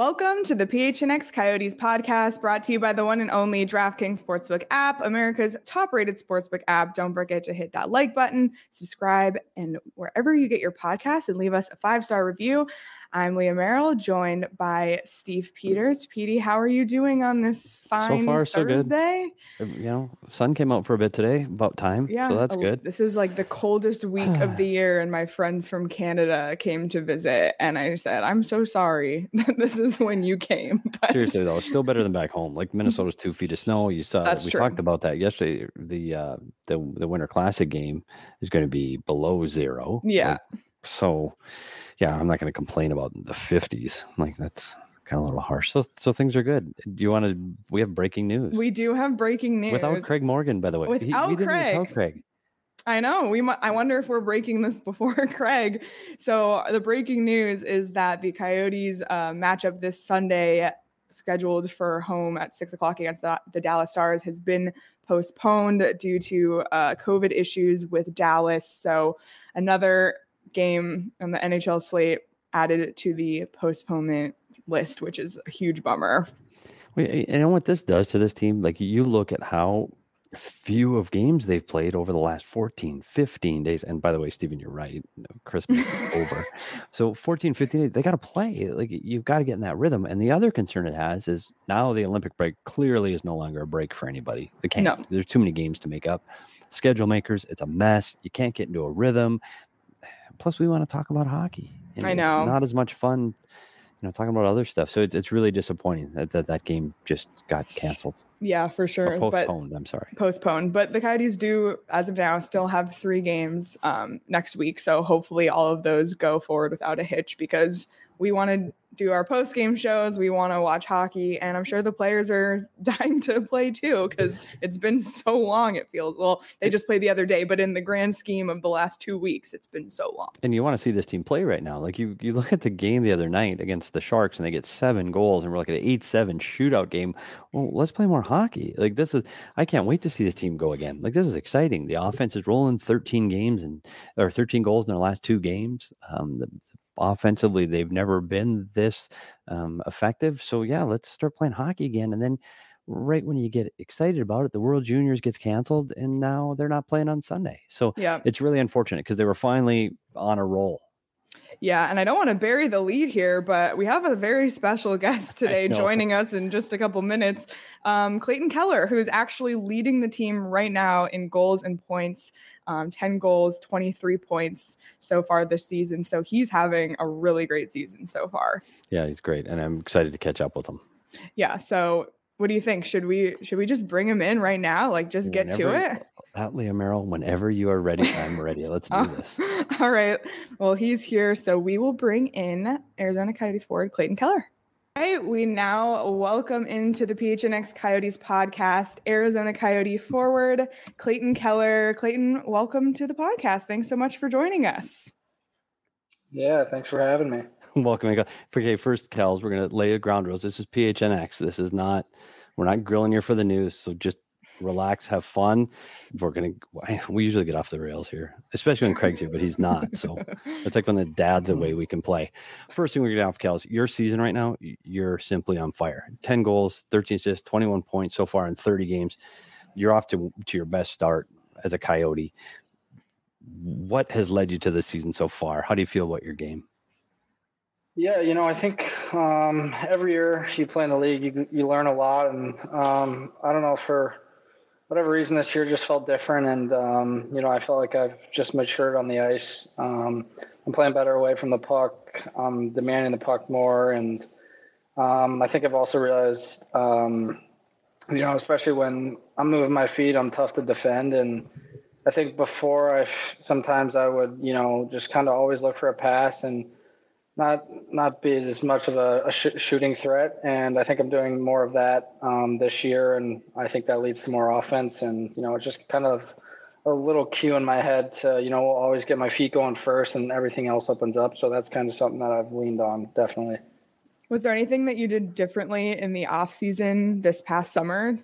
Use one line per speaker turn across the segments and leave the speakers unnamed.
Welcome to the PHNX Coyotes podcast, brought to you by the one and only DraftKings Sportsbook app, America's top-rated sportsbook app. Don't forget to hit that like button, subscribe, and wherever you get your podcasts, and leave us a 5-star review. I'm Leah Merrill, joined by Steve Peters. Petey, how are you doing on this fine
so far, so
Thursday?
Good. Sun came out for a bit today, about time.
Yeah,
so that's good.
This is like the coldest week of the year, and my friends from Canada came to visit, and I said, I'm so sorry that this is when you came. But...
Seriously, though, it's still better than back home. Like Minnesota's 2 feet of snow. You saw
That's
we
true.
talked about that yesterday. The Winter Classic game is going to be below zero.
Yeah.
I'm not going to complain about the 50s. Like that's kind of a little harsh. So things are good. We have breaking news.
We do have breaking news.
Without Craig Morgan, by the way.
Without Craig. I know. I wonder if we're breaking this before Craig. So the breaking news is that the Coyotes matchup this Sunday, scheduled for home at 6:00 against the Dallas Stars, has been postponed due to COVID issues with Dallas. So another game on the NHL slate added to the postponement list, which is a huge bummer.
You know what this does to this team? Like you look at how few of games they've played over the last 14, 15 days. And by the way, Steven, you're right. Christmas is over. So 14, 15 days, they got to play. Like you've got to get in that rhythm. And the other concern it has is now the Olympic break clearly is no longer a break for anybody. They can't. No. There's too many games to make up. Schedule makers, it's a mess. You can't get into a rhythm. Plus, we want to talk about hockey. And
I know.
It's not as much fun, talking about other stuff. So it's really disappointing that game just got canceled.
Yeah, for sure.
Postponed, I'm sorry.
Postponed. But the Coyotes do, as of now, still have 3 games next week. So hopefully all of those go forward without a hitch, because we want to do our post-game shows. We want to watch hockey. And I'm sure the players are dying to play too, because it's been so long, it feels. Well, they just played the other day, but in the grand scheme of the last 2 weeks, it's been so long.
And you want to see this team play right now. Like you look at the game the other night against the Sharks, and they get 7 goals, and we're like an 8-7 shootout game. Well, let's play more hockey. Like I can't wait to see this team go again. Like this is exciting. The offense is rolling 13 goals in their last 2 games. Offensively, they've never been this effective. So yeah, let's start playing hockey again. And then right when you get excited about it, the World Juniors gets canceled, and now they're not playing on Sunday. So It's really unfortunate because they were finally on a roll.
Yeah, and I don't want to bury the lead here, but we have a very special guest today joining us in just a couple minutes. Clayton Keller, who's actually leading the team right now in goals and points, 10 goals, 23 points so far this season. So he's having a really great season so far.
Yeah, he's great, and I'm excited to catch up with him.
Yeah, so what do you think? Should we just bring him in right now? Like just get to it?
Leah Merrill, whenever you are ready, I'm ready. Let's do this.
All right. Well, he's here. So we will bring in Arizona Coyotes forward Clayton Keller. All right. We now welcome into the PHNX Coyotes podcast, Arizona Coyote forward Clayton Keller. Clayton, welcome to the podcast. Thanks so much for joining us.
Yeah, thanks for having me.
Welcome. Okay, first, Kels, we're going to lay the ground rules. This is PHNX. We're not grilling you for the news. So just relax, have fun. We usually get off the rails here, especially when Craig's here, but he's not. So it's like when the dad's away, we can play. First thing we're going to have, Kels, your season right now, you're simply on fire. 10 goals, 13 assists, 21 points so far in 30 games. You're off to your best start as a Coyote. What has led you to this season so far? How do you feel about your game?
Yeah, I think every year you play in the league, you learn a lot. And I don't know, for whatever reason, this year just felt different. And, I felt like I've just matured on the ice. I'm playing better away from the puck. I'm demanding the puck more. And I think I've also realized, especially when I'm moving my feet, I'm tough to defend. And I think before sometimes I would, just kind of always look for a pass and not be as much of a shooting threat. And I think I'm doing more of that this year. And I think that leads to more offense. And, it's just kind of a little cue in my head to, always get my feet going first and everything else opens up. So that's kind of something that I've leaned on, definitely.
Was there anything that you did differently in the off season this past summer?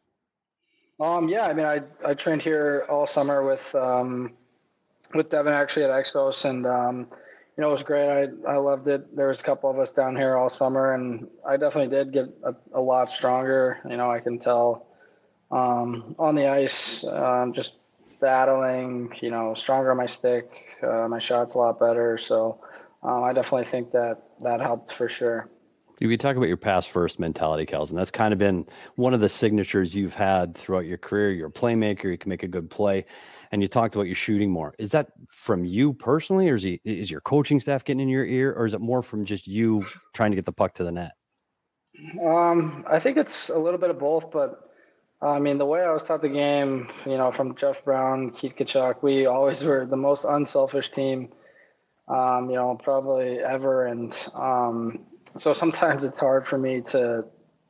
Yeah, I mean, I trained here all summer with Devin actually at Exos, and it was great. I loved it. There was a couple of us down here all summer, and I definitely did get a lot stronger. I can tell on the ice, just battling, stronger on my stick. My shot's a lot better. So I definitely think that helped for sure.
You talk about your pass first mentality, Kels, and that's kind of been one of the signatures you've had throughout your career. You're a playmaker, you can make a good play, and you talked about you shooting more. Is that from you personally, or is your coaching staff getting in your ear, or is it more from just you trying to get the puck to the net?
I think it's a little bit of both, but I mean, the way I was taught the game, from Jeff Brown, Keith Tkachuk, we always were the most unselfish team, probably ever. And so sometimes it's hard for me to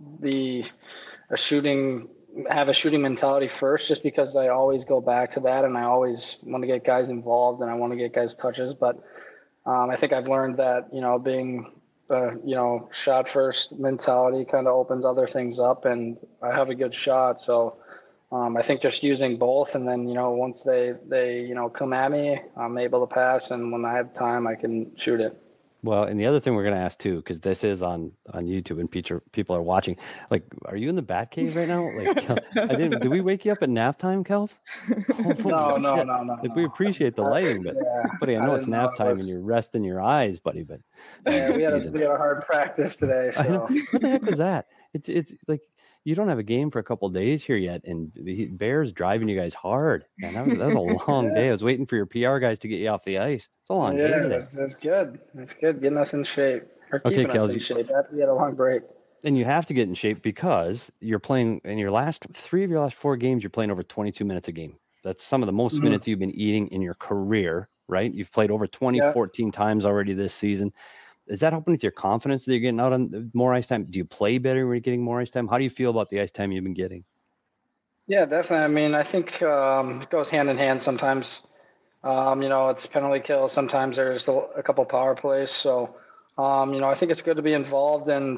have a shooting mentality first, just because I always go back to that, and I always want to get guys involved and I want to get guys touches. But I think I've learned that, being shot first mentality kind of opens other things up, and I have a good shot. So I think just using both, and then, once they come at me, I'm able to pass. And when I have time, I can shoot it.
Well, and the other thing we're going to ask too, because this is on YouTube and people are watching, like, are you in the bat cave right now? Like, did we wake you up at nap time, Kels?
No.
Like, we appreciate the lighting, but buddy, I know it's nap time and you're resting your eyes, buddy. But
yeah, we had a hard practice today. So
what the heck was that? It's like, you don't have a game for a couple of days here yet, and Bears driving you guys hard. Man, that was a long day. I was waiting for your PR guys to get you off the ice. It's a long day today.
It's good. It's good getting us in shape. Or keeping us in shape after we had a long break.
And you have to get in shape because you're playing in your last 4 games. You're playing over 22 minutes a game. That's some of the most minutes you've been eating in your career, right? You've played over 14 times already this season. Is that helping with your confidence that you're getting out on more ice time? Do you play better when you're getting more ice time? How do you feel about the ice time you've been getting?
Yeah, definitely. I mean, I think it goes hand in hand. Sometimes, it's penalty kill. Sometimes there's a couple power plays. So, I think it's good to be involved. And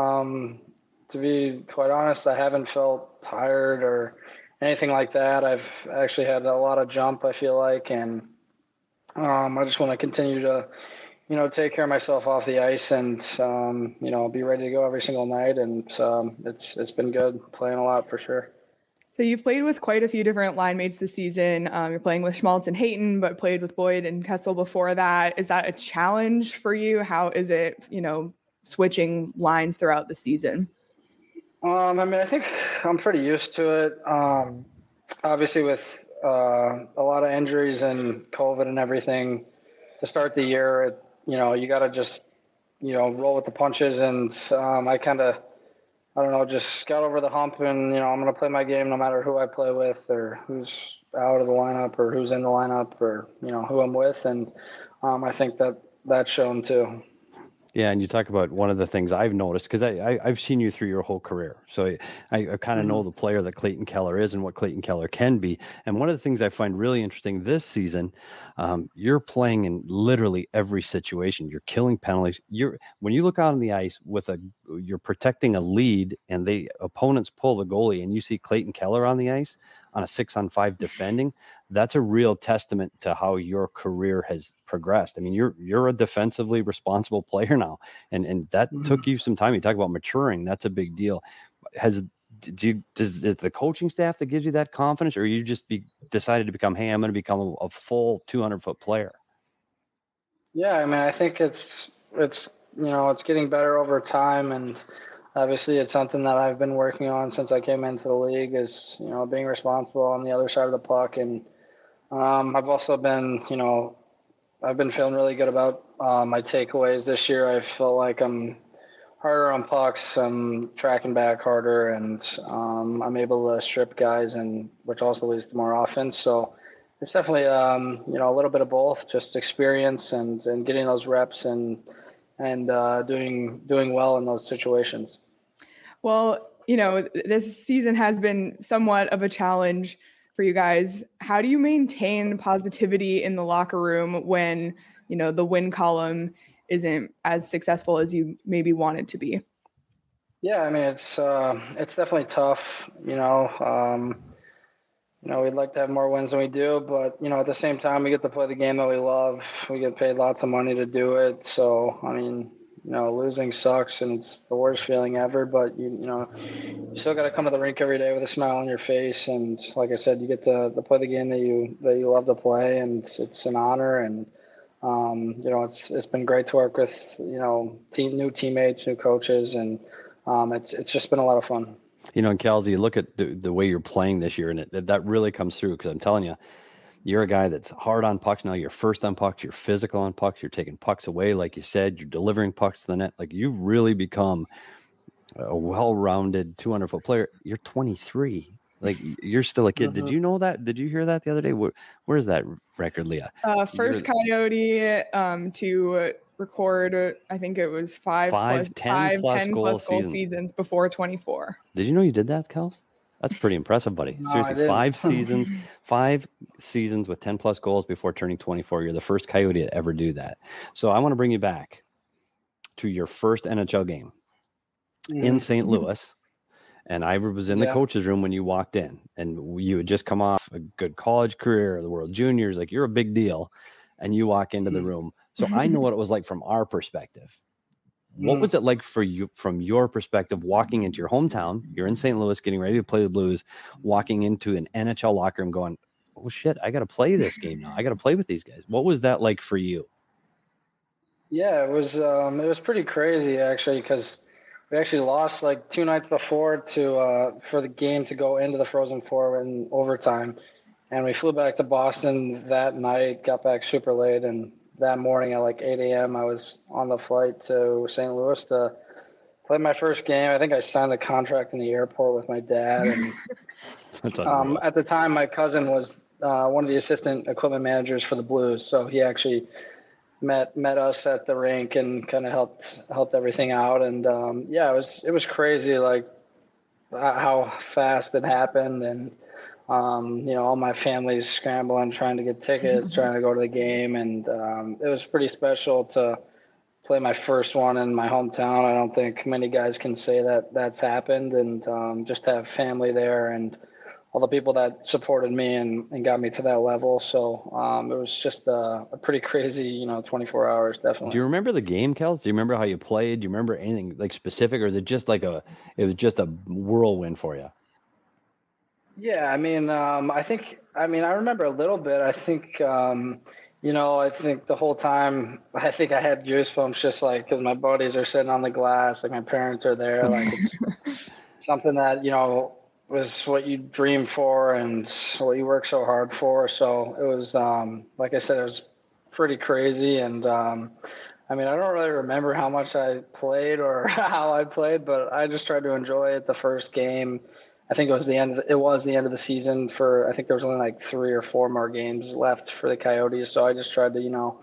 to be quite honest, I haven't felt tired or anything like that. I've actually had a lot of jump, I feel like. And I just want to continue to take care of myself off the ice and, be ready to go every single night. And it's been good playing a lot for sure.
So you've played with quite a few different line mates this season. You're playing with Schmaltz and Hayton, but played with Boyd and Kessel before that. Is that a challenge for you? How is it, switching lines throughout the season?
I mean, I think I'm pretty used to it. Obviously with a lot of injuries and COVID and everything to start the year, you got to just, roll with the punches. And I kind of, just got over the hump and, I'm going to play my game no matter who I play with or who's out of the lineup or who's in the lineup or, who I'm with. And I think that's shown too.
Yeah, and you talk about one of the things I've noticed, because I've seen you through your whole career. So I kind of know the player that Clayton Keller is and what Clayton Keller can be. And one of the things I find really interesting this season, you're playing in literally every situation. You're killing penalties. When you look out on the ice you're protecting a lead and the opponents pull the goalie and you see Clayton Keller on the ice on a 6-on-5 defending, that's a real testament to how your career has progressed. I mean, you're a defensively responsible player now, and that took you some time. You talk about maturing. That's a big deal. Is the coaching staff that gives you that confidence, or you just decided to become, hey, I'm going to become a full 200-foot player?
Yeah, I mean, I think it's getting better over time, and obviously it's something that I've been working on since I came into the league is, being responsible on the other side of the puck. And I've also been, I've been feeling really good about my takeaways this year. I feel like I'm harder on pucks. I'm tracking back harder, and I'm able to strip guys, and which also leads to more offense. So it's definitely, a little bit of both, just experience and getting those reps and doing well in those situations.
Well, this season has been somewhat of a challenge for you guys. How do you maintain positivity in the locker room when, the win column isn't as successful as you maybe want it to be?
Yeah, I mean, it's definitely tough. we'd like to have more wins than we do, but, at the same time, we get to play the game that we love. We get paid lots of money to do it. So, I mean, losing sucks and it's the worst feeling ever, but you still got to come to the rink every day with a smile on your face. And like I said, you get to play the game that you love to play, and it's an honor. And, it's been great to work with, new teammates, new coaches, and it's just been a lot of fun.
And Kelsey, you look at the way you're playing this year, and that really comes through, because I'm telling you, you're a guy that's hard on pucks now. You're first on pucks. You're physical on pucks. You're taking pucks away, like you said. You're delivering pucks to the net. Like, you've really become a well-rounded 200-foot player. You're 23. Like, you're still a kid. Mm-hmm. Did you know that? Did you hear that the other day? Where's that record, Leah?
First Coyote to record, I think it was 10 plus goal seasons before 24.
Did you know you did that, Kels? That's pretty impressive, buddy. No, seriously, 5 seasons with 10 plus goals before turning 24. You're the first Coyote to ever do that. So I want to bring you back to your first NHL game in St. Louis. And I was in the coach's room when you walked in, and you had just come off a good college career, the World Juniors. Like, you're a big deal. And you walk into the room. So I know what it was like from our perspective. What was it like for you from your perspective, walking into your hometown? You're in St. Louis, getting ready to play the Blues, walking into an NHL locker room going, oh shit, I got to play this game now. I got to play with these guys. What was that like for you?
Yeah, it was pretty crazy, actually, because we actually lost like 2 nights before for the game to go into the Frozen Four in overtime. And we flew back to Boston that night, got back super late, and that morning at like 8 a.m., I was on the flight to St. Louis to play my first game. I think I signed the contract in the airport with my dad. And at the time, my cousin was one of the assistant equipment managers for the Blues, so he actually met us at the rink and kind of helped everything out. And it was crazy, like how fast it happened. And all my family's scrambling, trying to get tickets, trying to go to the game. And it was pretty special to play my first one in my hometown. I don't think many guys can say that that's happened. And just to have family there and all the people that supported me and got me to that level. So it was just a pretty crazy, 24 hours, definitely.
Do you remember the game, Kels? Do you remember how you played? Do you remember anything like specific, or is it just like it was just a whirlwind for you?
Yeah, I remember a little bit. I think, I think the whole time, I think I had goosebumps just like, because my buddies are sitting on the glass, like my parents are there, like it's something that, was what you dream for and what you work so hard for. So it was, like I said, it was pretty crazy. And, I don't really remember how much I played or how I played, but I just tried to enjoy it. The first game, I think it was the end of the season I think there was only like 3 or 4 more games left for the Coyotes. So I just tried to,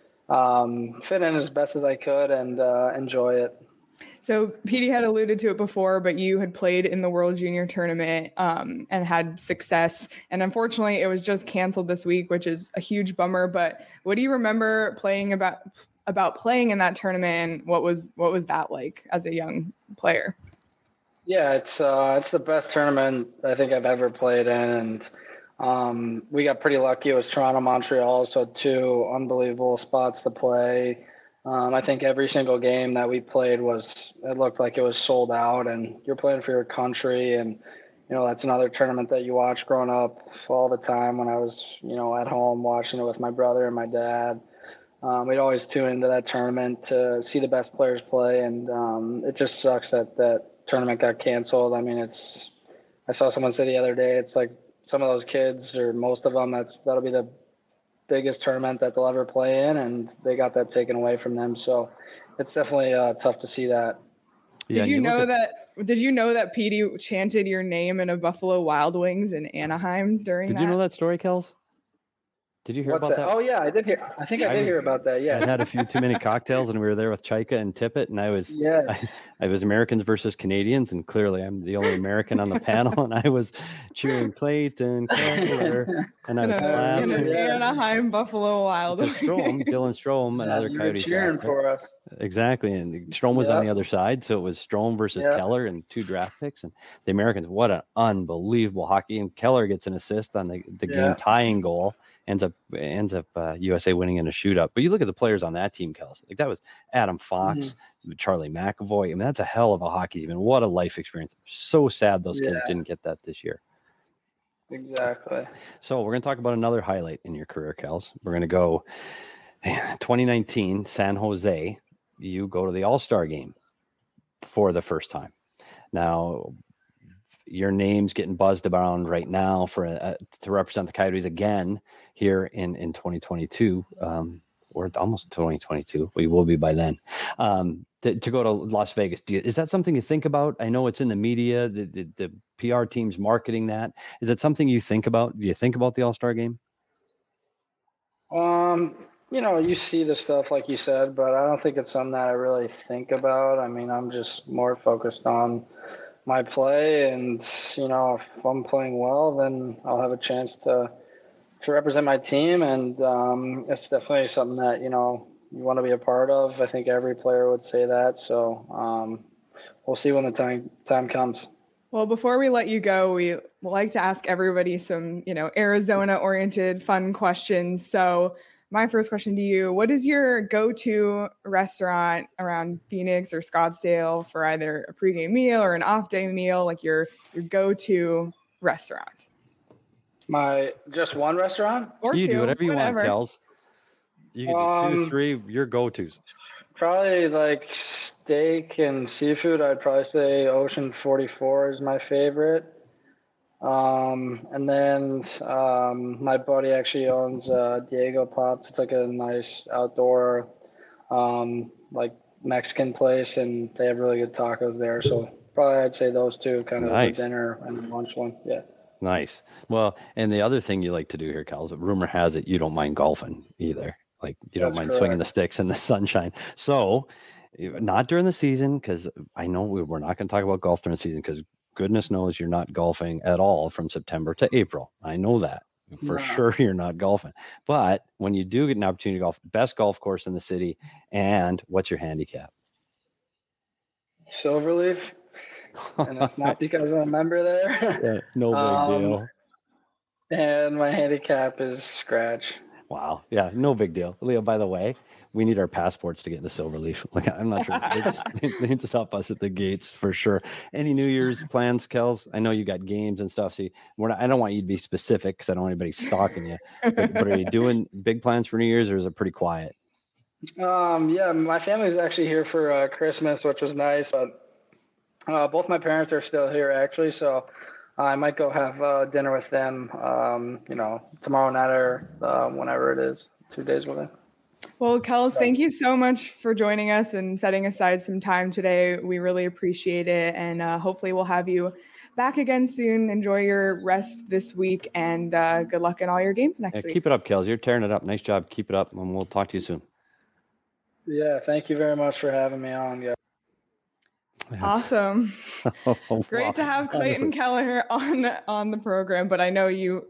fit in as best as I could and enjoy it.
So Petey had alluded to it before, but you had played in the World Junior Tournament and had success. And unfortunately, it was just canceled this week, which is a huge bummer. But what do you remember playing about playing in that tournament? And what was that like as a young player?
Yeah, it's the best tournament I think I've ever played in, and we got pretty lucky. It was Toronto, Montreal, so 2 unbelievable spots to play. I think every single game that we played it looked like it was sold out, and you're playing for your country. And, that's another tournament that you watch growing up all the time when I was, at home watching it with my brother and my dad. We'd always tune into that tournament to see the best players play. And it just sucks that tournament got canceled. I mean, I saw someone say the other day, it's like some of those kids, or most of them, that'll be the biggest tournament that they'll ever play in, and they got that taken away from them. So it's definitely tough to see that.
Did you know that Petey chanted your name in a Buffalo Wild Wings in Anaheim during that?
Did you know that story, Kels? Did you hear about that?
Oh yeah, I did hear. I think I did hear about that. Yeah,
I had a few too many cocktails, and we were there with Chaika and Tippett, and I was Americans versus Canadians, and clearly I'm the only American on the panel, and I was cheering Clayton Keller, and I was clapping.
Anaheim Buffalo Wild.
Dylan Strome, another Coyote
cheering for us.
Exactly, and Strome was on the other side, so it was Strome versus Keller and 2 draft picks, and the Americans. What an unbelievable hockey! And Keller gets an assist on the game tying goal. Ends up USA winning in a shootout. But you look at the players on that team, Kels. Like that was Adam Fox, Charlie McAvoy. I mean, that's a hell of a hockey team. And what a life experience. So sad those kids didn't get that this year.
Exactly.
So we're going to talk about another highlight in your career, Kels. We're going to go 2019, San Jose. You go to the All-Star game for the first time. Now, your name's getting buzzed around right now for to represent the Coyotes again here in 2022, or almost 2022. We will be by then. To go to Las Vegas, is that something you think about? I know it's in the media, the PR team's marketing that. Is that something you think about? Do you think about the All-Star game?
You see the stuff like you said, but I don't think it's something that I really think about. I mean, I'm just more focused on my play, and if I'm playing well, then I'll have a chance to represent my team, and it's definitely something that you want to be a part of. I think every player would say that, so we'll see when the time comes.
Well, before we let you go, we like to ask everybody some Arizona oriented fun questions. So my first question to you, what is your go-to restaurant around Phoenix or Scottsdale for either a pregame meal or an off-day meal, like your go-to restaurant?
Just one restaurant?
Or you do whatever you want, Kels. You can do 2, 3, your go-tos.
Probably like steak and seafood. I'd probably say Ocean 44 is my favorite. And then my buddy actually owns Diego Pops. It's like a nice outdoor like Mexican place, and they have really good tacos there. So probably I'd say those two, kind of the dinner and lunch one. Yeah. Nice.
Well, and the other thing you like to do here, Kels, rumor has it you don't mind golfing either. Like you don't mind swinging the sticks in the sunshine. So not during the season, because I know we're not going to talk about golf during the season, because goodness knows you're not golfing at all from September to April. I know that for sure you're not golfing. But when you do get an opportunity to golf, best golf course in the city, and what's your handicap?
Silverleaf. And it's not because I'm a member there.
Yeah, no big deal.
And my handicap is scratch.
Wow. Yeah, no big deal. Leo, by the way, we need our passports to get into Silverleaf. Like, I'm not sure. They need to stop us at the gates for sure. Any New Year's plans, Kels? I know you got games and stuff. So I don't want you to be specific because I don't want anybody stalking you. But are you doing big plans for New Year's, or is it pretty quiet?
Yeah, my family's actually here for Christmas, which was nice. But both my parents are still here, actually. So I might go have dinner with them, tomorrow night or whenever it is, 2 days with them.
Well, Kels, thank you so much for joining us and setting aside some time today. We really appreciate it. And hopefully we'll have you back again soon. Enjoy your rest this week, and good luck in all your games next week.
Keep it up, Kels. You're tearing it up. Nice job. Keep it up, and we'll talk to you soon.
Yeah, thank you very much for having me on. Yeah.
Awesome. Great to have Clayton Keller on the program, but I know you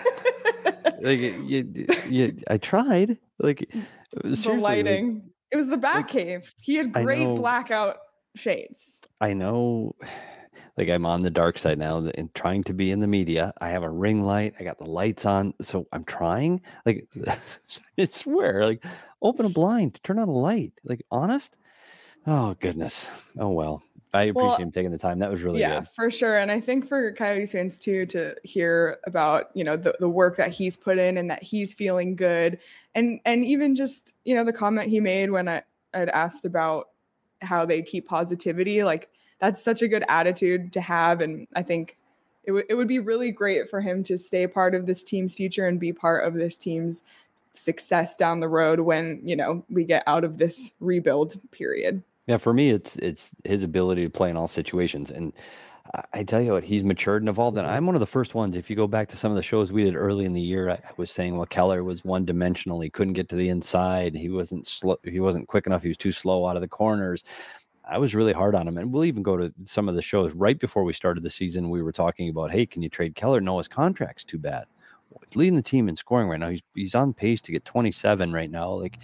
I tried. Like,
the lighting. It was the Batcave. He had great blackout shades.
I know. Like, I'm on the dark side now and trying to be in the media. I have a ring light. I got the lights on. So I'm trying. Like, I swear, like, open a blind, turn on a light. Like, honest? Oh, goodness. Oh, well. I appreciate him taking the time. That was really good.
Yeah, for sure. And I think for Coyotes fans too, to hear about, the work that he's put in and that he's feeling good. And even just, the comment he made when I'd asked about how they keep positivity, like, that's such a good attitude to have. And I think it would be really great for him to stay part of this team's future and be part of this team's success down the road when, we get out of this rebuild period.
Yeah, for me, it's his ability to play in all situations. And I tell you what, he's matured and evolved. And I'm one of the first ones. If you go back to some of the shows we did early in the year, I was saying, well, Keller was one dimensional. He couldn't get to the inside. He wasn't slow. He wasn't quick enough. He was too slow out of the corners. I was really hard on him. And we'll even go to some of the shows right before we started the season. We were talking about, hey, can you trade Keller? No, his contract's too bad. Well, he's leading the team in scoring right now. He's on pace to get 27 right now. Like,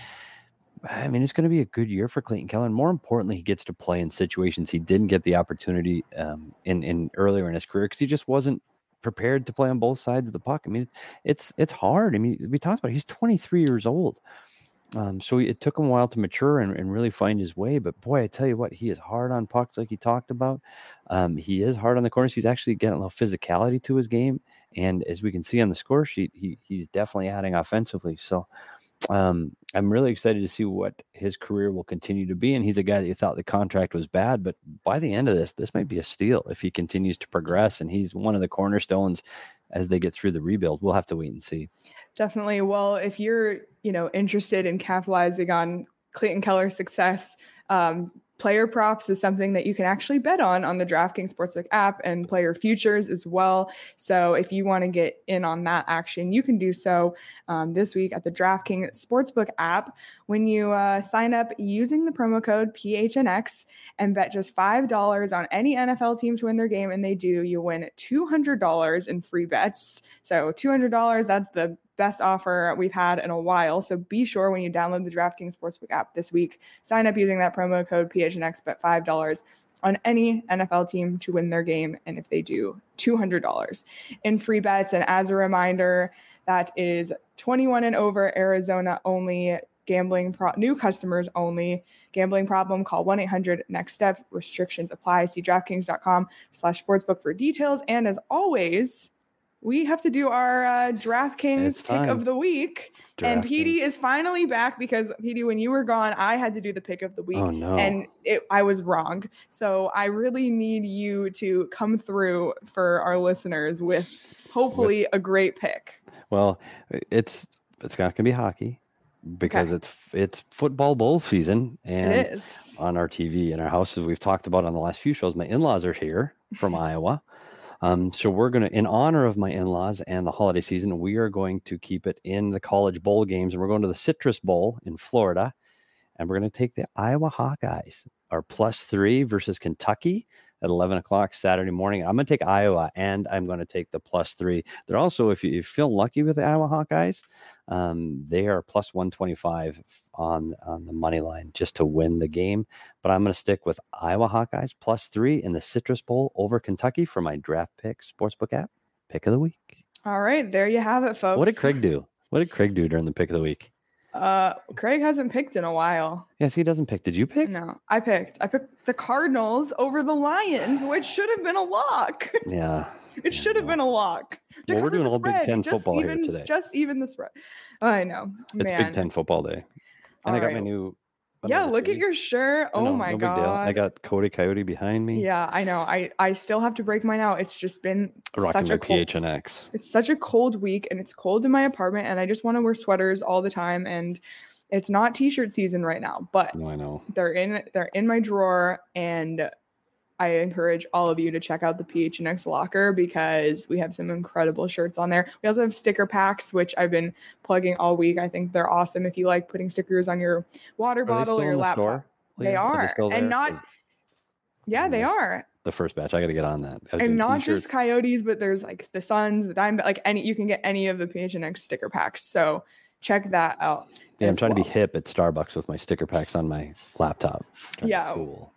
I mean, it's going to be a good year for Clayton Keller. And more importantly, he gets to play in situations he didn't get the opportunity in earlier in his career because he just wasn't prepared to play on both sides of the puck. I mean, it's hard. I mean, we talked about it. He's 23 years old. So it took him a while to mature and really find his way. But boy, I tell you what, he is hard on pucks like he talked about. He is hard on the corners. He's actually getting a little physicality to his game. And as we can see on the score sheet, he's definitely adding offensively. So I'm really excited to see what his career will continue to be. And he's a guy that you thought the contract was bad, but by the end of this might be a steal if he continues to progress. And he's one of the cornerstones as they get through the rebuild. We'll have to wait and see.
Definitely. Well, if you're, interested in capitalizing on Clayton Keller's success, player props is something that you can actually bet on the DraftKings Sportsbook app and player futures as well. So if you want to get in on that action, you can do so this week at the DraftKings Sportsbook app. When you sign up using the promo code PHNX and bet just $5 on any NFL team to win their game, and they do, you win $200 in free bets. So $200, that's the best offer we've had in a while. So be sure when you download the DraftKings Sportsbook app this week, sign up using that promo code PHNX, bet $5 on any NFL team to win their game. And if they do, $200 in free bets. And as a reminder, that is 21 and over, Arizona only, new customers only. Gambling problem, call 1-800-NEXT-STEP. Restrictions apply. See DraftKings.com/sportsbook for details. And as always, we have to do our DraftKings pick of the week. And Petey is finally back because, Petey, when you were gone, I had to do the pick of the week.
Oh, no.
And I was wrong. So I really need you to come through for our listeners with hopefully a great pick.
Well, it's not going to be hockey because it's football bowl season. And
it is.
On our TV in our house, as we've talked about on the last few shows, my in-laws are here from Iowa. So we're going to, in honor of my in-laws and the holiday season, we are going to keep it in the college bowl games. And we're going to the Citrus Bowl in Florida. And we're going to take the Iowa Hawkeyes, our +3 versus Kentucky at 11 o'clock Saturday morning. I'm going to take Iowa, and I'm going to take the +3. They're also, if you feel lucky with the Iowa Hawkeyes, they are +125 on the money line just to win the game. But I'm going to stick with Iowa Hawkeyes +3 in the Citrus Bowl over Kentucky for my Draft Pick Sportsbook app pick of the week.
All right, there you have it, folks.
What did Craig do? What did Craig do during the pick of the week?
Craig hasn't picked in a while.
Yes, he doesn't pick. Did you pick?
No, I picked the Cardinals over the Lions, which should have been a lock.
Yeah.
It should have been a lock.
Well, we're doing all Big Ten football here today.
Just even the spread. I know.
It's Big Ten football day. And I got my new.
Yeah, look at your shirt. Oh my God. Big deal.
I got Cody Coyote behind me.
Yeah, I know. I still have to break mine out. It's just been
rocking my PHNX.
It's such a cold week and it's cold in my apartment and I just want to wear sweaters all the time. And it's not t-shirt season right now, but
no, I know.
They're in my drawer, and I encourage all of you to check out the PHNX locker because we have some incredible shirts on there. We also have sticker packs, which I've been plugging all week. I think they're awesome if you like putting stickers on your water bottle or your laptop.
Store?
They are. And not they are.
The first batch. I got to get on that.
And not t-shirts. Just Coyotes, but there's like the Suns, the Diamondback, you can get any of the PHNX sticker packs. So check that out.
Yeah, I'm trying to be hip at Starbucks with my sticker packs on my laptop.
Yeah,
cool.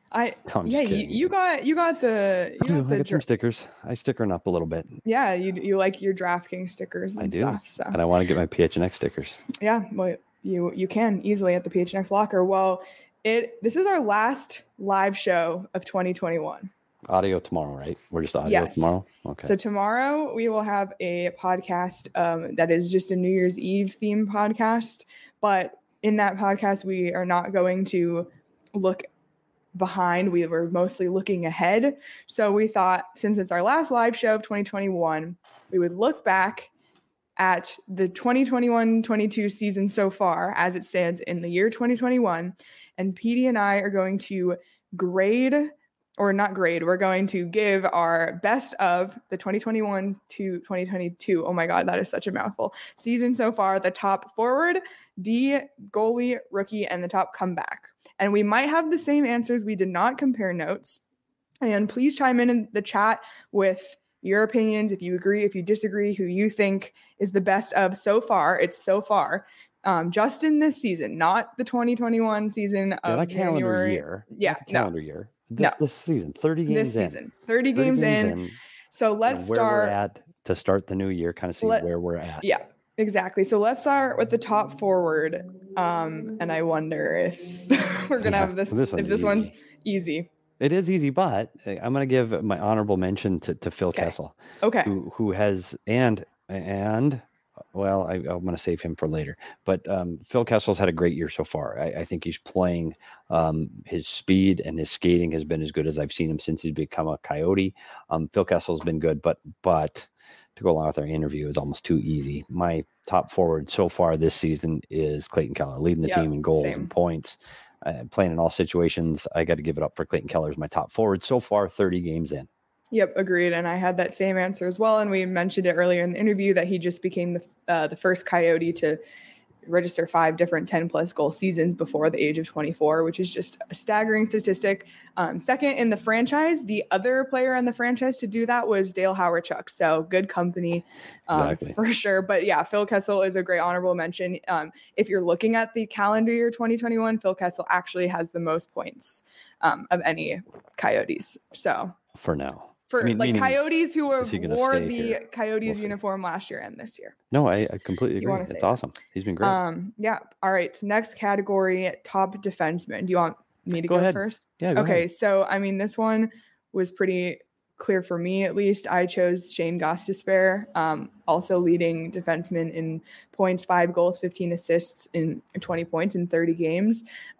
You got the.
I got some stickers. I stickering up a little bit.
Yeah, you like your DraftKings stickers and stuff. So.
And I want to get my PHNX stickers.
Yeah, well, you can easily at the PHNX locker. Well, this is our last live show of 2021.
Audio tomorrow, right? We're just audio tomorrow? Okay.
So tomorrow we will have a podcast that is just a New Year's Eve themed podcast. But in that podcast, we are not going to look behind. We were mostly looking ahead. So we thought since it's our last live show of 2021, we would look back at the 2021-22 season so far as it stands in the year 2021. And Petey and I are going to grade or not grade. We're going to give our best of the 2021 to 2022. Oh my God, that is such a mouthful. Season so far, the top forward, D, goalie, rookie, and the top comeback. And we might have the same answers. We did not compare notes. And please chime in the chat with your opinions, if you agree, if you disagree, who you think is the best of so far. It's so far. Just in this season, not the 2021 season of
not
January.
Year.
Yeah,
calendar year.
No.
This season, 30 games
this season, 30 games in. So let's
where
start.
We're at to start the new year, kind of see where we're at.
Yeah, exactly. So let's start with the top forward. And I wonder if we're going to have this one's easy.
It is easy, but I'm going to give my honorable mention to Phil Kessel.
Okay.
Who has, and well, I'm going to save him for later. But Phil Kessel's had a great year so far. I think he's playing. His speed and his skating has been as good as I've seen him since he's become a Coyote. Phil Kessel's been good, but to go along with our interview is almost too easy. My top forward so far this season is Clayton Keller, leading the team in goals and points. Playing in all situations. I got to give it up for Clayton Keller as my top forward so far, 30 games in.
Yep, agreed. And I had that same answer as well. And we mentioned it earlier in the interview that he just became the first Coyote to register 5 different 10-plus goal seasons before the age of 24, which is just a staggering statistic. Second in the franchise, the other player in the franchise to do that was Dale Hawerchuk. So good company for sure. But yeah, Phil Kessel is a great honorable mention. If you're looking at the calendar year 2021, Phil Kessel actually has the most points of any Coyotes. So
for now.
Coyotes who wore the Coyotes uniform last year and this year.
No, I completely agree. It's awesome. He's been great.
Yeah. All right. Next category, top defenseman. Do you want me to go first?
Yeah.
Okay. So, this one was pretty clear for me, at least. I chose Shane Gostisbehere, also leading defenseman in points, 5 goals, 15 assists in 20 points in 30 games.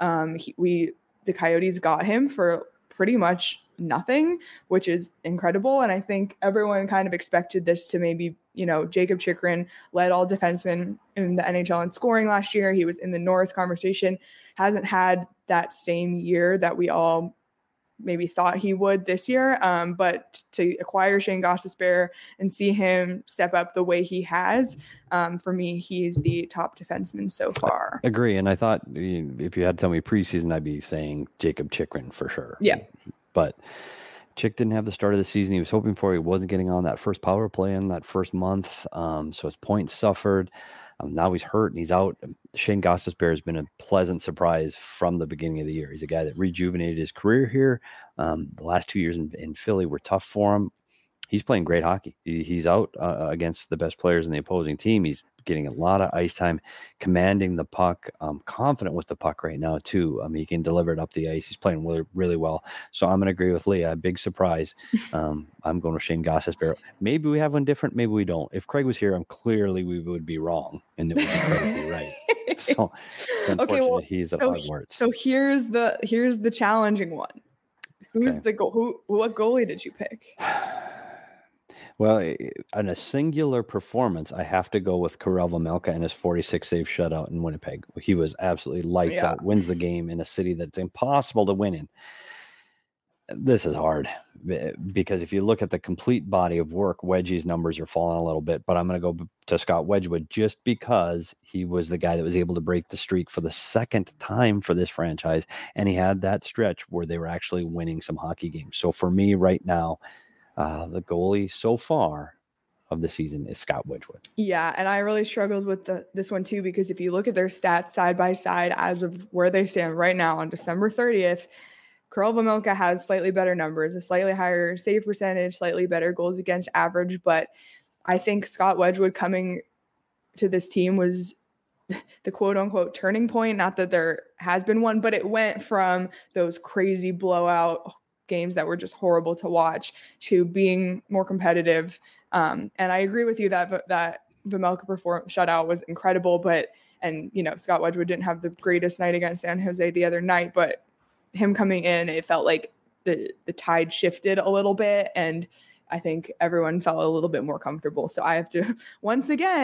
The Coyotes got him for pretty much nothing, which is incredible. And I think everyone kind of expected this to maybe, Jacob Chychrun led all defensemen in the NHL in scoring last year. He was in the Norris conversation, hasn't had that same year that we all maybe thought he would this year. But to acquire Shane Gostisbehere and see him step up the way he has, for me, he's the top defenseman so far.
Agree. And I thought if you had to tell me preseason, I'd be saying Jacob Chychrun for sure.
Yeah.
But Chick didn't have the start of the season he was hoping for. He wasn't getting on that first power play in that first month. So his points suffered. Now he's hurt and he's out. Shane Gostisbehere has been a pleasant surprise from the beginning of the year. He's a guy that rejuvenated his career here. The last 2 years in Philly were tough for him. He's playing great hockey. He's out against the best players in the opposing team. He's getting a lot of ice time, commanding the puck, confident with the puck right now too. He can deliver it up the ice. He's playing really, really well. So I'm going to agree with Leah. Big surprise. I'm going with Shane Gostisbehere. Maybe we have one different. Maybe we don't. If Craig was here, clearly we would be wrong and it would be Craig right. So unfortunately, he's a Hogwarts.
So here's the challenging one. What goalie did you pick?
Well, in a singular performance, I have to go with Karel Vejmelka and his 46 save shutout in Winnipeg. He was absolutely lights out, wins the game in a city that's impossible to win in. This is hard because if you look at the complete body of work, Wedgie's numbers are falling a little bit, but I'm going to go to Scott Wedgwood just because he was the guy that was able to break the streak for the second time for this franchise. And he had that stretch where they were actually winning some hockey games. So for me right now, the goalie so far of the season is Scott Wedgwood.
Yeah, and I really struggled with this one too, because if you look at their stats side by side as of where they stand right now on December 30th, Karel Vejmelka has slightly better numbers, a slightly higher save percentage, slightly better goals against average, but I think Scott Wedgwood coming to this team was the quote-unquote turning point. Not that there has been one, but it went from those crazy blowout games that were just horrible to watch to being more competitive. And I agree with you that Vejmelka shutout was incredible, and Scott Wedgwood didn't have the greatest night against San Jose the other night, but him coming in, it felt like the tide shifted a little bit, and I think everyone felt a little bit more comfortable. So I have to once again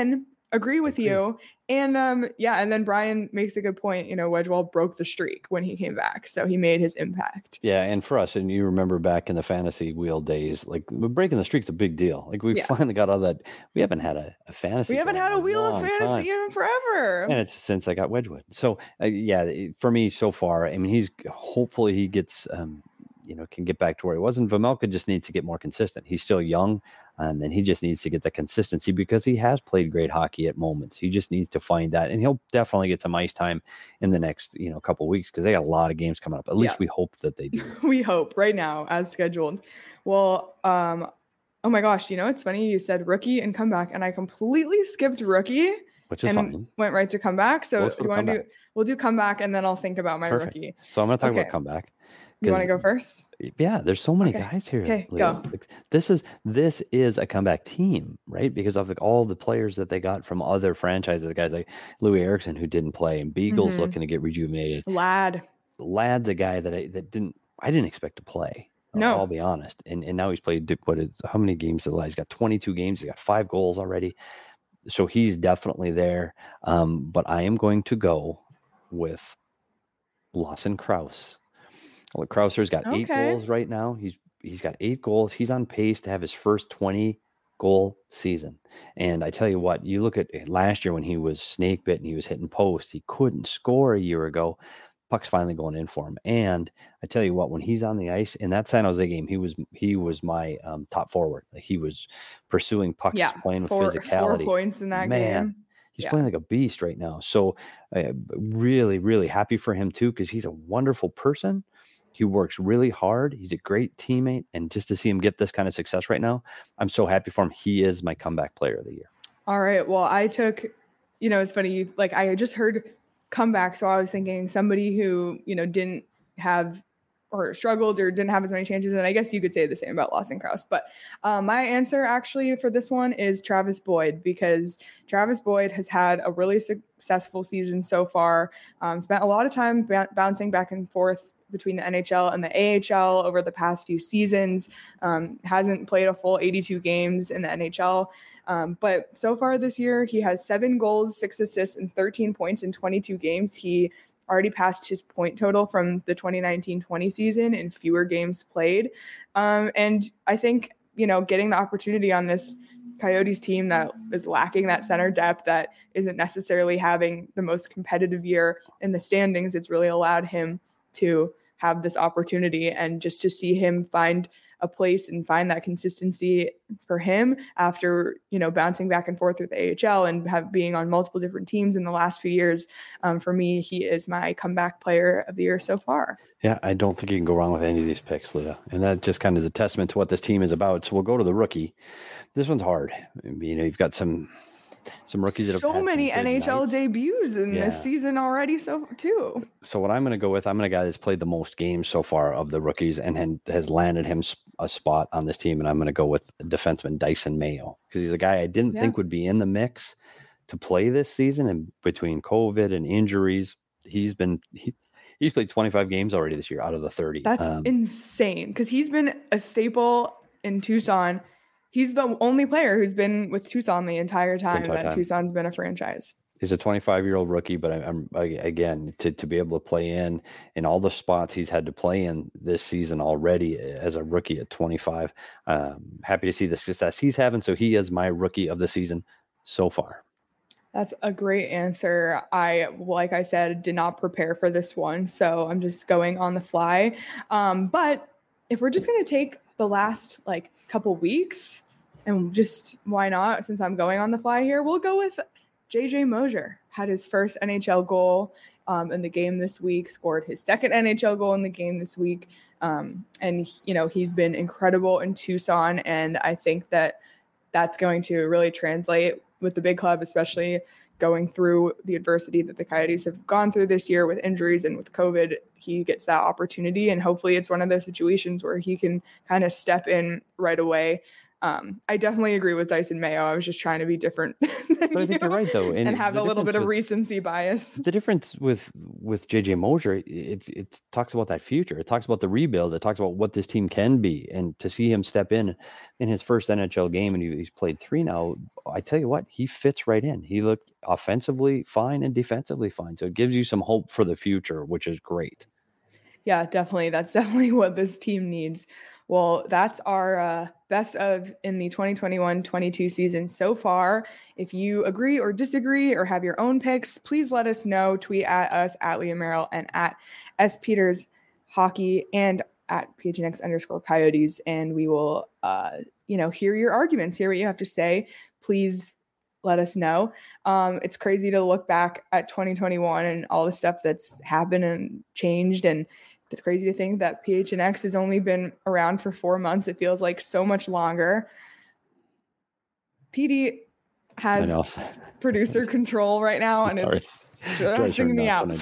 agree with you. And and then Brian makes a good point. Wedgewell broke the streak when he came back, so he made his impact.
Yeah, and for us, and you remember back in the fantasy wheel days, like breaking the streak's a big deal. Like we finally got all that. We haven't had a fantasy.
We haven't had a wheel of fantasy in forever,
and it's since I got Wedgwood. So for me so far, I mean, hopefully he gets can get back to where he was, and Vejmelka just needs to get more consistent. He's still young. And he just needs to get the consistency because he has played great hockey at moments. He just needs to find that, and he'll definitely get some ice time in the next, couple of weeks because they got a lot of games coming up. At least we hope that they do.
We hope right now as scheduled. Well, oh my gosh, it's funny you said rookie and comeback, and I completely skipped rookie,
which is fine.
Went right to comeback. So do you want to do? We'll do comeback, and then I'll think about my rookie.
So I'm going to talk about comeback.
You want to go first?
Yeah, there's so many guys here.
Okay, go.
This is a comeback team, right? Because of all the players that they got from other franchises, the guys like Louis Eriksson who didn't play, and Beagle's looking to get rejuvenated. Lad's a guy that I didn't expect to play.
No,
I'll be honest. And now he's played how many games? He's got 22 games. He's got 5 goals already. So he's definitely there. But I am going to go with Lawson Crouse. Well, Krauser's got 8 goals right now. He's got 8 goals. He's on pace to have his first 20-goal season. And I tell you what, you look at last year when he was snake bit and he was hitting posts, he couldn't score a year ago. Puck's finally going in for him. And I tell you what, when he's on the ice in that San Jose game, he was my top forward. Like he was pursuing pucks, playing with physicality.
4 points in that game.
He's playing like a beast right now. So really, really happy for him too, because he's a wonderful person. He works really hard. He's a great teammate. And just to see him get this kind of success right now, I'm so happy for him. He is my comeback player of the year.
All right. Well, I took, it's funny. Like I just heard comeback. So I was thinking somebody who, didn't have or struggled or didn't have as many chances. And I guess you could say the same about Lawson Crouse. But my answer actually for this one is Travis Boyd, because Travis Boyd has had a really successful season so far. Spent a lot of time bouncing back and forth between the NHL and the AHL over the past few seasons. Hasn't played a full 82 games in the NHL. But so far this year, he has 7 goals, 6 assists, and 13 points in 22 games. He already passed his point total from the 2019-20 season in fewer games played. And I think, getting the opportunity on this Coyotes team that is lacking that center depth, that isn't necessarily having the most competitive year in the standings, it's really allowed him to have this opportunity, and just to see him find a place and find that consistency for him after, bouncing back and forth with the AHL and being on multiple different teams in the last few years. For me, he is my comeback player of the year so far.
Yeah, I don't think you can go wrong with any of these picks, Leah. And that just kind of is a testament to what this team is about. So we'll go to the rookie. This one's hard. You've got some rookies that have
so
had
many NHL debuts in this season already. So what I'm going to go with, I'm going to guy that's played the most games so far of the rookies and has landed him a spot on this team. And I'm going to go with defenseman Dyson Mayo, because he's a guy I didn't think would be in the mix to play this season. And between COVID and injuries, he's played 25 games already this year out of the 30. That's insane, because he's been a staple in Tucson. He's the only player who's been with Tucson the entire time that Tucson's been a franchise. He's a
25-year-old rookie, but I'm again, to be able to play in all the spots he's had to play in this season already as a rookie at 25. Happy to see the success he's having. So he is my rookie of the season so far.
That's a great answer. Like I said, did not prepare for this one, so I'm just going on the fly. But if we're just going to take the last couple weeks, and just why not, since I'm going on the fly here, we'll go with JJ Mosier. Had his first NHL goal in the game this week, scored his second NHL goal in the game this week. And he's been incredible in Tucson, and I think that's going to really translate with the big club, especially going through the adversity that the Coyotes have gone through this year with injuries and with COVID. He gets that opportunity, and hopefully it's one of those situations where he can kind of step in right away. I definitely agree with Dyson Mayo. I was just trying to be different.
But I think you're right, though.
And have a little bit of recency bias.
The difference with JJ Mosier, it talks about that future. It talks about the rebuild. It talks about what this team can be. And to see him step in his first NHL game, and he's played 3 now, I tell you what, he fits right in. He looked offensively fine and defensively fine. So it gives you some hope for the future, which is great.
Yeah, definitely. That's definitely what this team needs. Well, that's our best of in the 2021-22 season so far. If you agree or disagree or have your own picks, please let us know. Tweet at us at Leah Merrill and at S Peters Hockey and at PHNX_Coyotes, and we will hear your arguments, hear what you have to say. Please let us know. It's crazy to look back at 2021 and all the stuff that's happened and changed, and it's crazy to think that PHNX has only been around for 4 months. It feels like so much longer. PD has producer control right now, and it's stressing me out.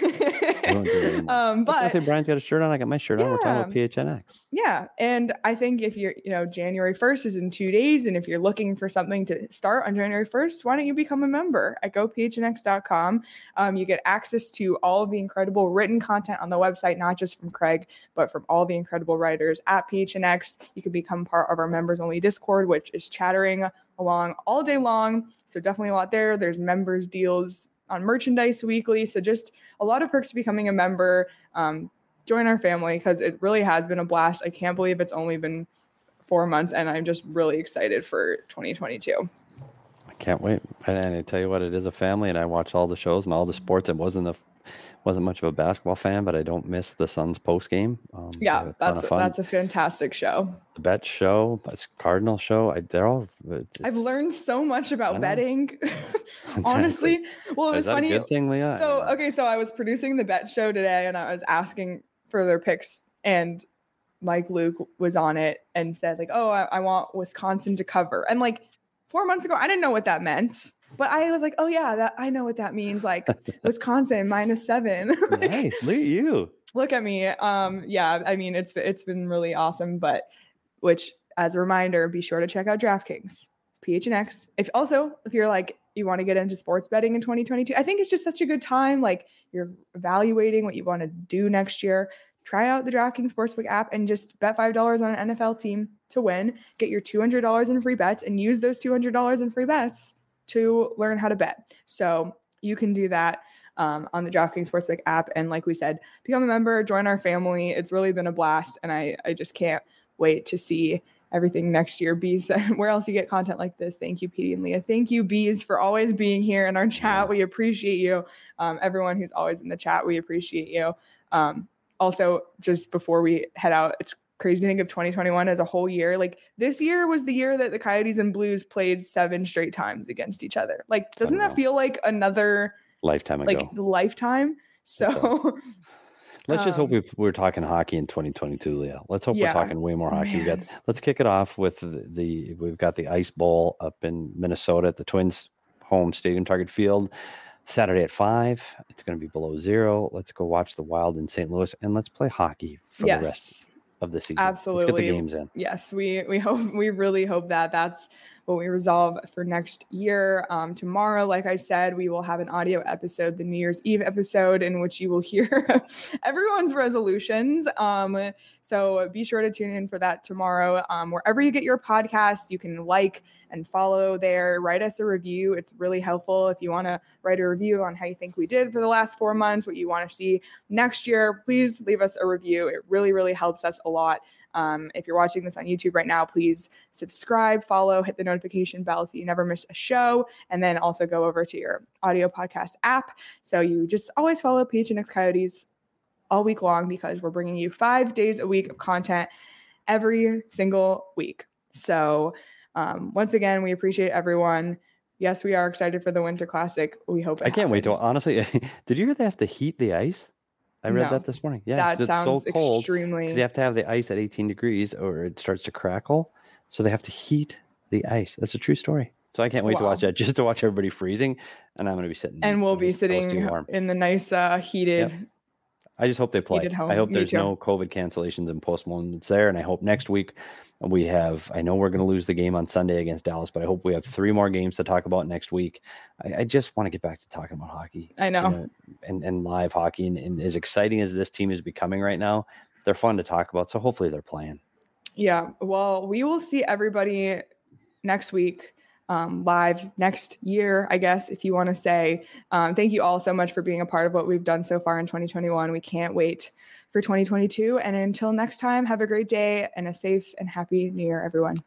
But Brian's got a shirt on. I got my shirt on. We're talking about PHNX.
Yeah, and I think if you're, January 1st is in 2 days, and if you're looking for something to start on January 1st, why don't you become a member at gophnx.com? You get access to all of the incredible written content on the website, not just from Craig, but from all the incredible writers at PHNX. You can become part of our members only Discord, which is chattering along all day long. So definitely a lot there. There's members deals on merchandise weekly. So just a lot of perks to becoming a member. Join our family, because it really has been a blast. I can't believe it's only been 4 months, and I'm just really excited for 2022.
I can't wait. And I tell you what, it is a family, and I watch all the shows and all the sports. It wasn't much of a basketball fan, but I don't miss the Suns post game.
That's a fantastic show.
The bet show, that's Cardinal show.
I've learned so much about betting. Honestly, well, it was funny.
A good thing, Leah?
So I was producing the bet show today, and I was asking for their picks, and Mike Luke was on it and said like, "Oh, I want Wisconsin to cover." And like 4 months ago, I didn't know what that meant. But I was like, oh, yeah, I know what that means. Like Wisconsin -7.
Nice. Look at you.
Look at me. Yeah, I mean, it's been really awesome. But which, as a reminder, be sure to check out DraftKings, PHNX. If you're like, you want to get into sports betting in 2022, I think it's just such a good time. Like, you're evaluating what you want to do next year. Try out the DraftKings Sportsbook app and just bet $5 on an NFL team to win. Get your $200 in free bets and use those $200 in free bets to learn how to bet. So you can do that on the DraftKings Sportsbook app. And like we said, become a member, join our family. It's really been a blast. And I just can't wait to see everything next year. Bees, where else you get content like this? Thank you, Petey and Leah. Thank you, Bees, for always being here in our chat. We appreciate you. Everyone who's always in the chat, we appreciate you. Also, just before we head out, it's crazy to think of 2021 as a whole year. Like, this year was the year that the Coyotes and Blues played 7 straight times against each other. Like, doesn't that feel like another
lifetime ago?
Like lifetime. So
let's just hope we're talking hockey in 2022, Leah. Let's hope we're talking way more hockey. Let's kick it off with we've got the Ice Bowl up in Minnesota at the Twins home stadium, Target Field, Saturday at 5. It's going to be below 0. Let's go watch the Wild in St. Louis, and let's play hockey for the rest of the season.
Absolutely.
Let's get the games in.
Yes, we really hope that's what we resolve for next year. Tomorrow, like I said, we will have an audio episode, the New Year's Eve episode, in which you will hear everyone's resolutions. So be sure to tune in for that tomorrow. Wherever you get your podcasts, you can like and follow there. Write us a review. It's really helpful if you want to write a review on how you think we did for the last 4 months, what you want to see next year. Please leave us a review. It really, really helps us a lot. If you're watching this on YouTube right now, please subscribe, follow, hit the notification bell so you never miss a show, and then also go over to your audio podcast app so you just always follow PHNX Coyotes all week long, because we're bringing you 5 days a week of content every single week. So once again, we appreciate everyone. Yes, we are excited for the Winter Classic. We hope
I can't wait to, honestly, did you hear they have to heat the ice? I read that this morning. Yeah,
that sounds so cold. Extremely.
They have to have the ice at 18 degrees or it starts to crackle. So they have to heat the ice. That's a true story. So I can't wait to watch that, just to watch everybody freezing. And I'm going to be sitting.
And we'll be sitting in the nice heated
I just hope they play. I hope there's no COVID cancellations and postponements there. And I hope next week I know we're going to lose the game on Sunday against Dallas, but I hope we have 3 more games to talk about next week. I just want to get back to talking about hockey.
I know.
And live hockey. And as exciting as this team is becoming right now, they're fun to talk about. So hopefully they're playing.
Yeah. Well, we will see everybody next week. Live next year, I guess, if you want to say. Thank you all so much for being a part of what we've done so far in 2021. We can't wait for 2022. And until next time, have a great day and a safe and happy New Year, everyone.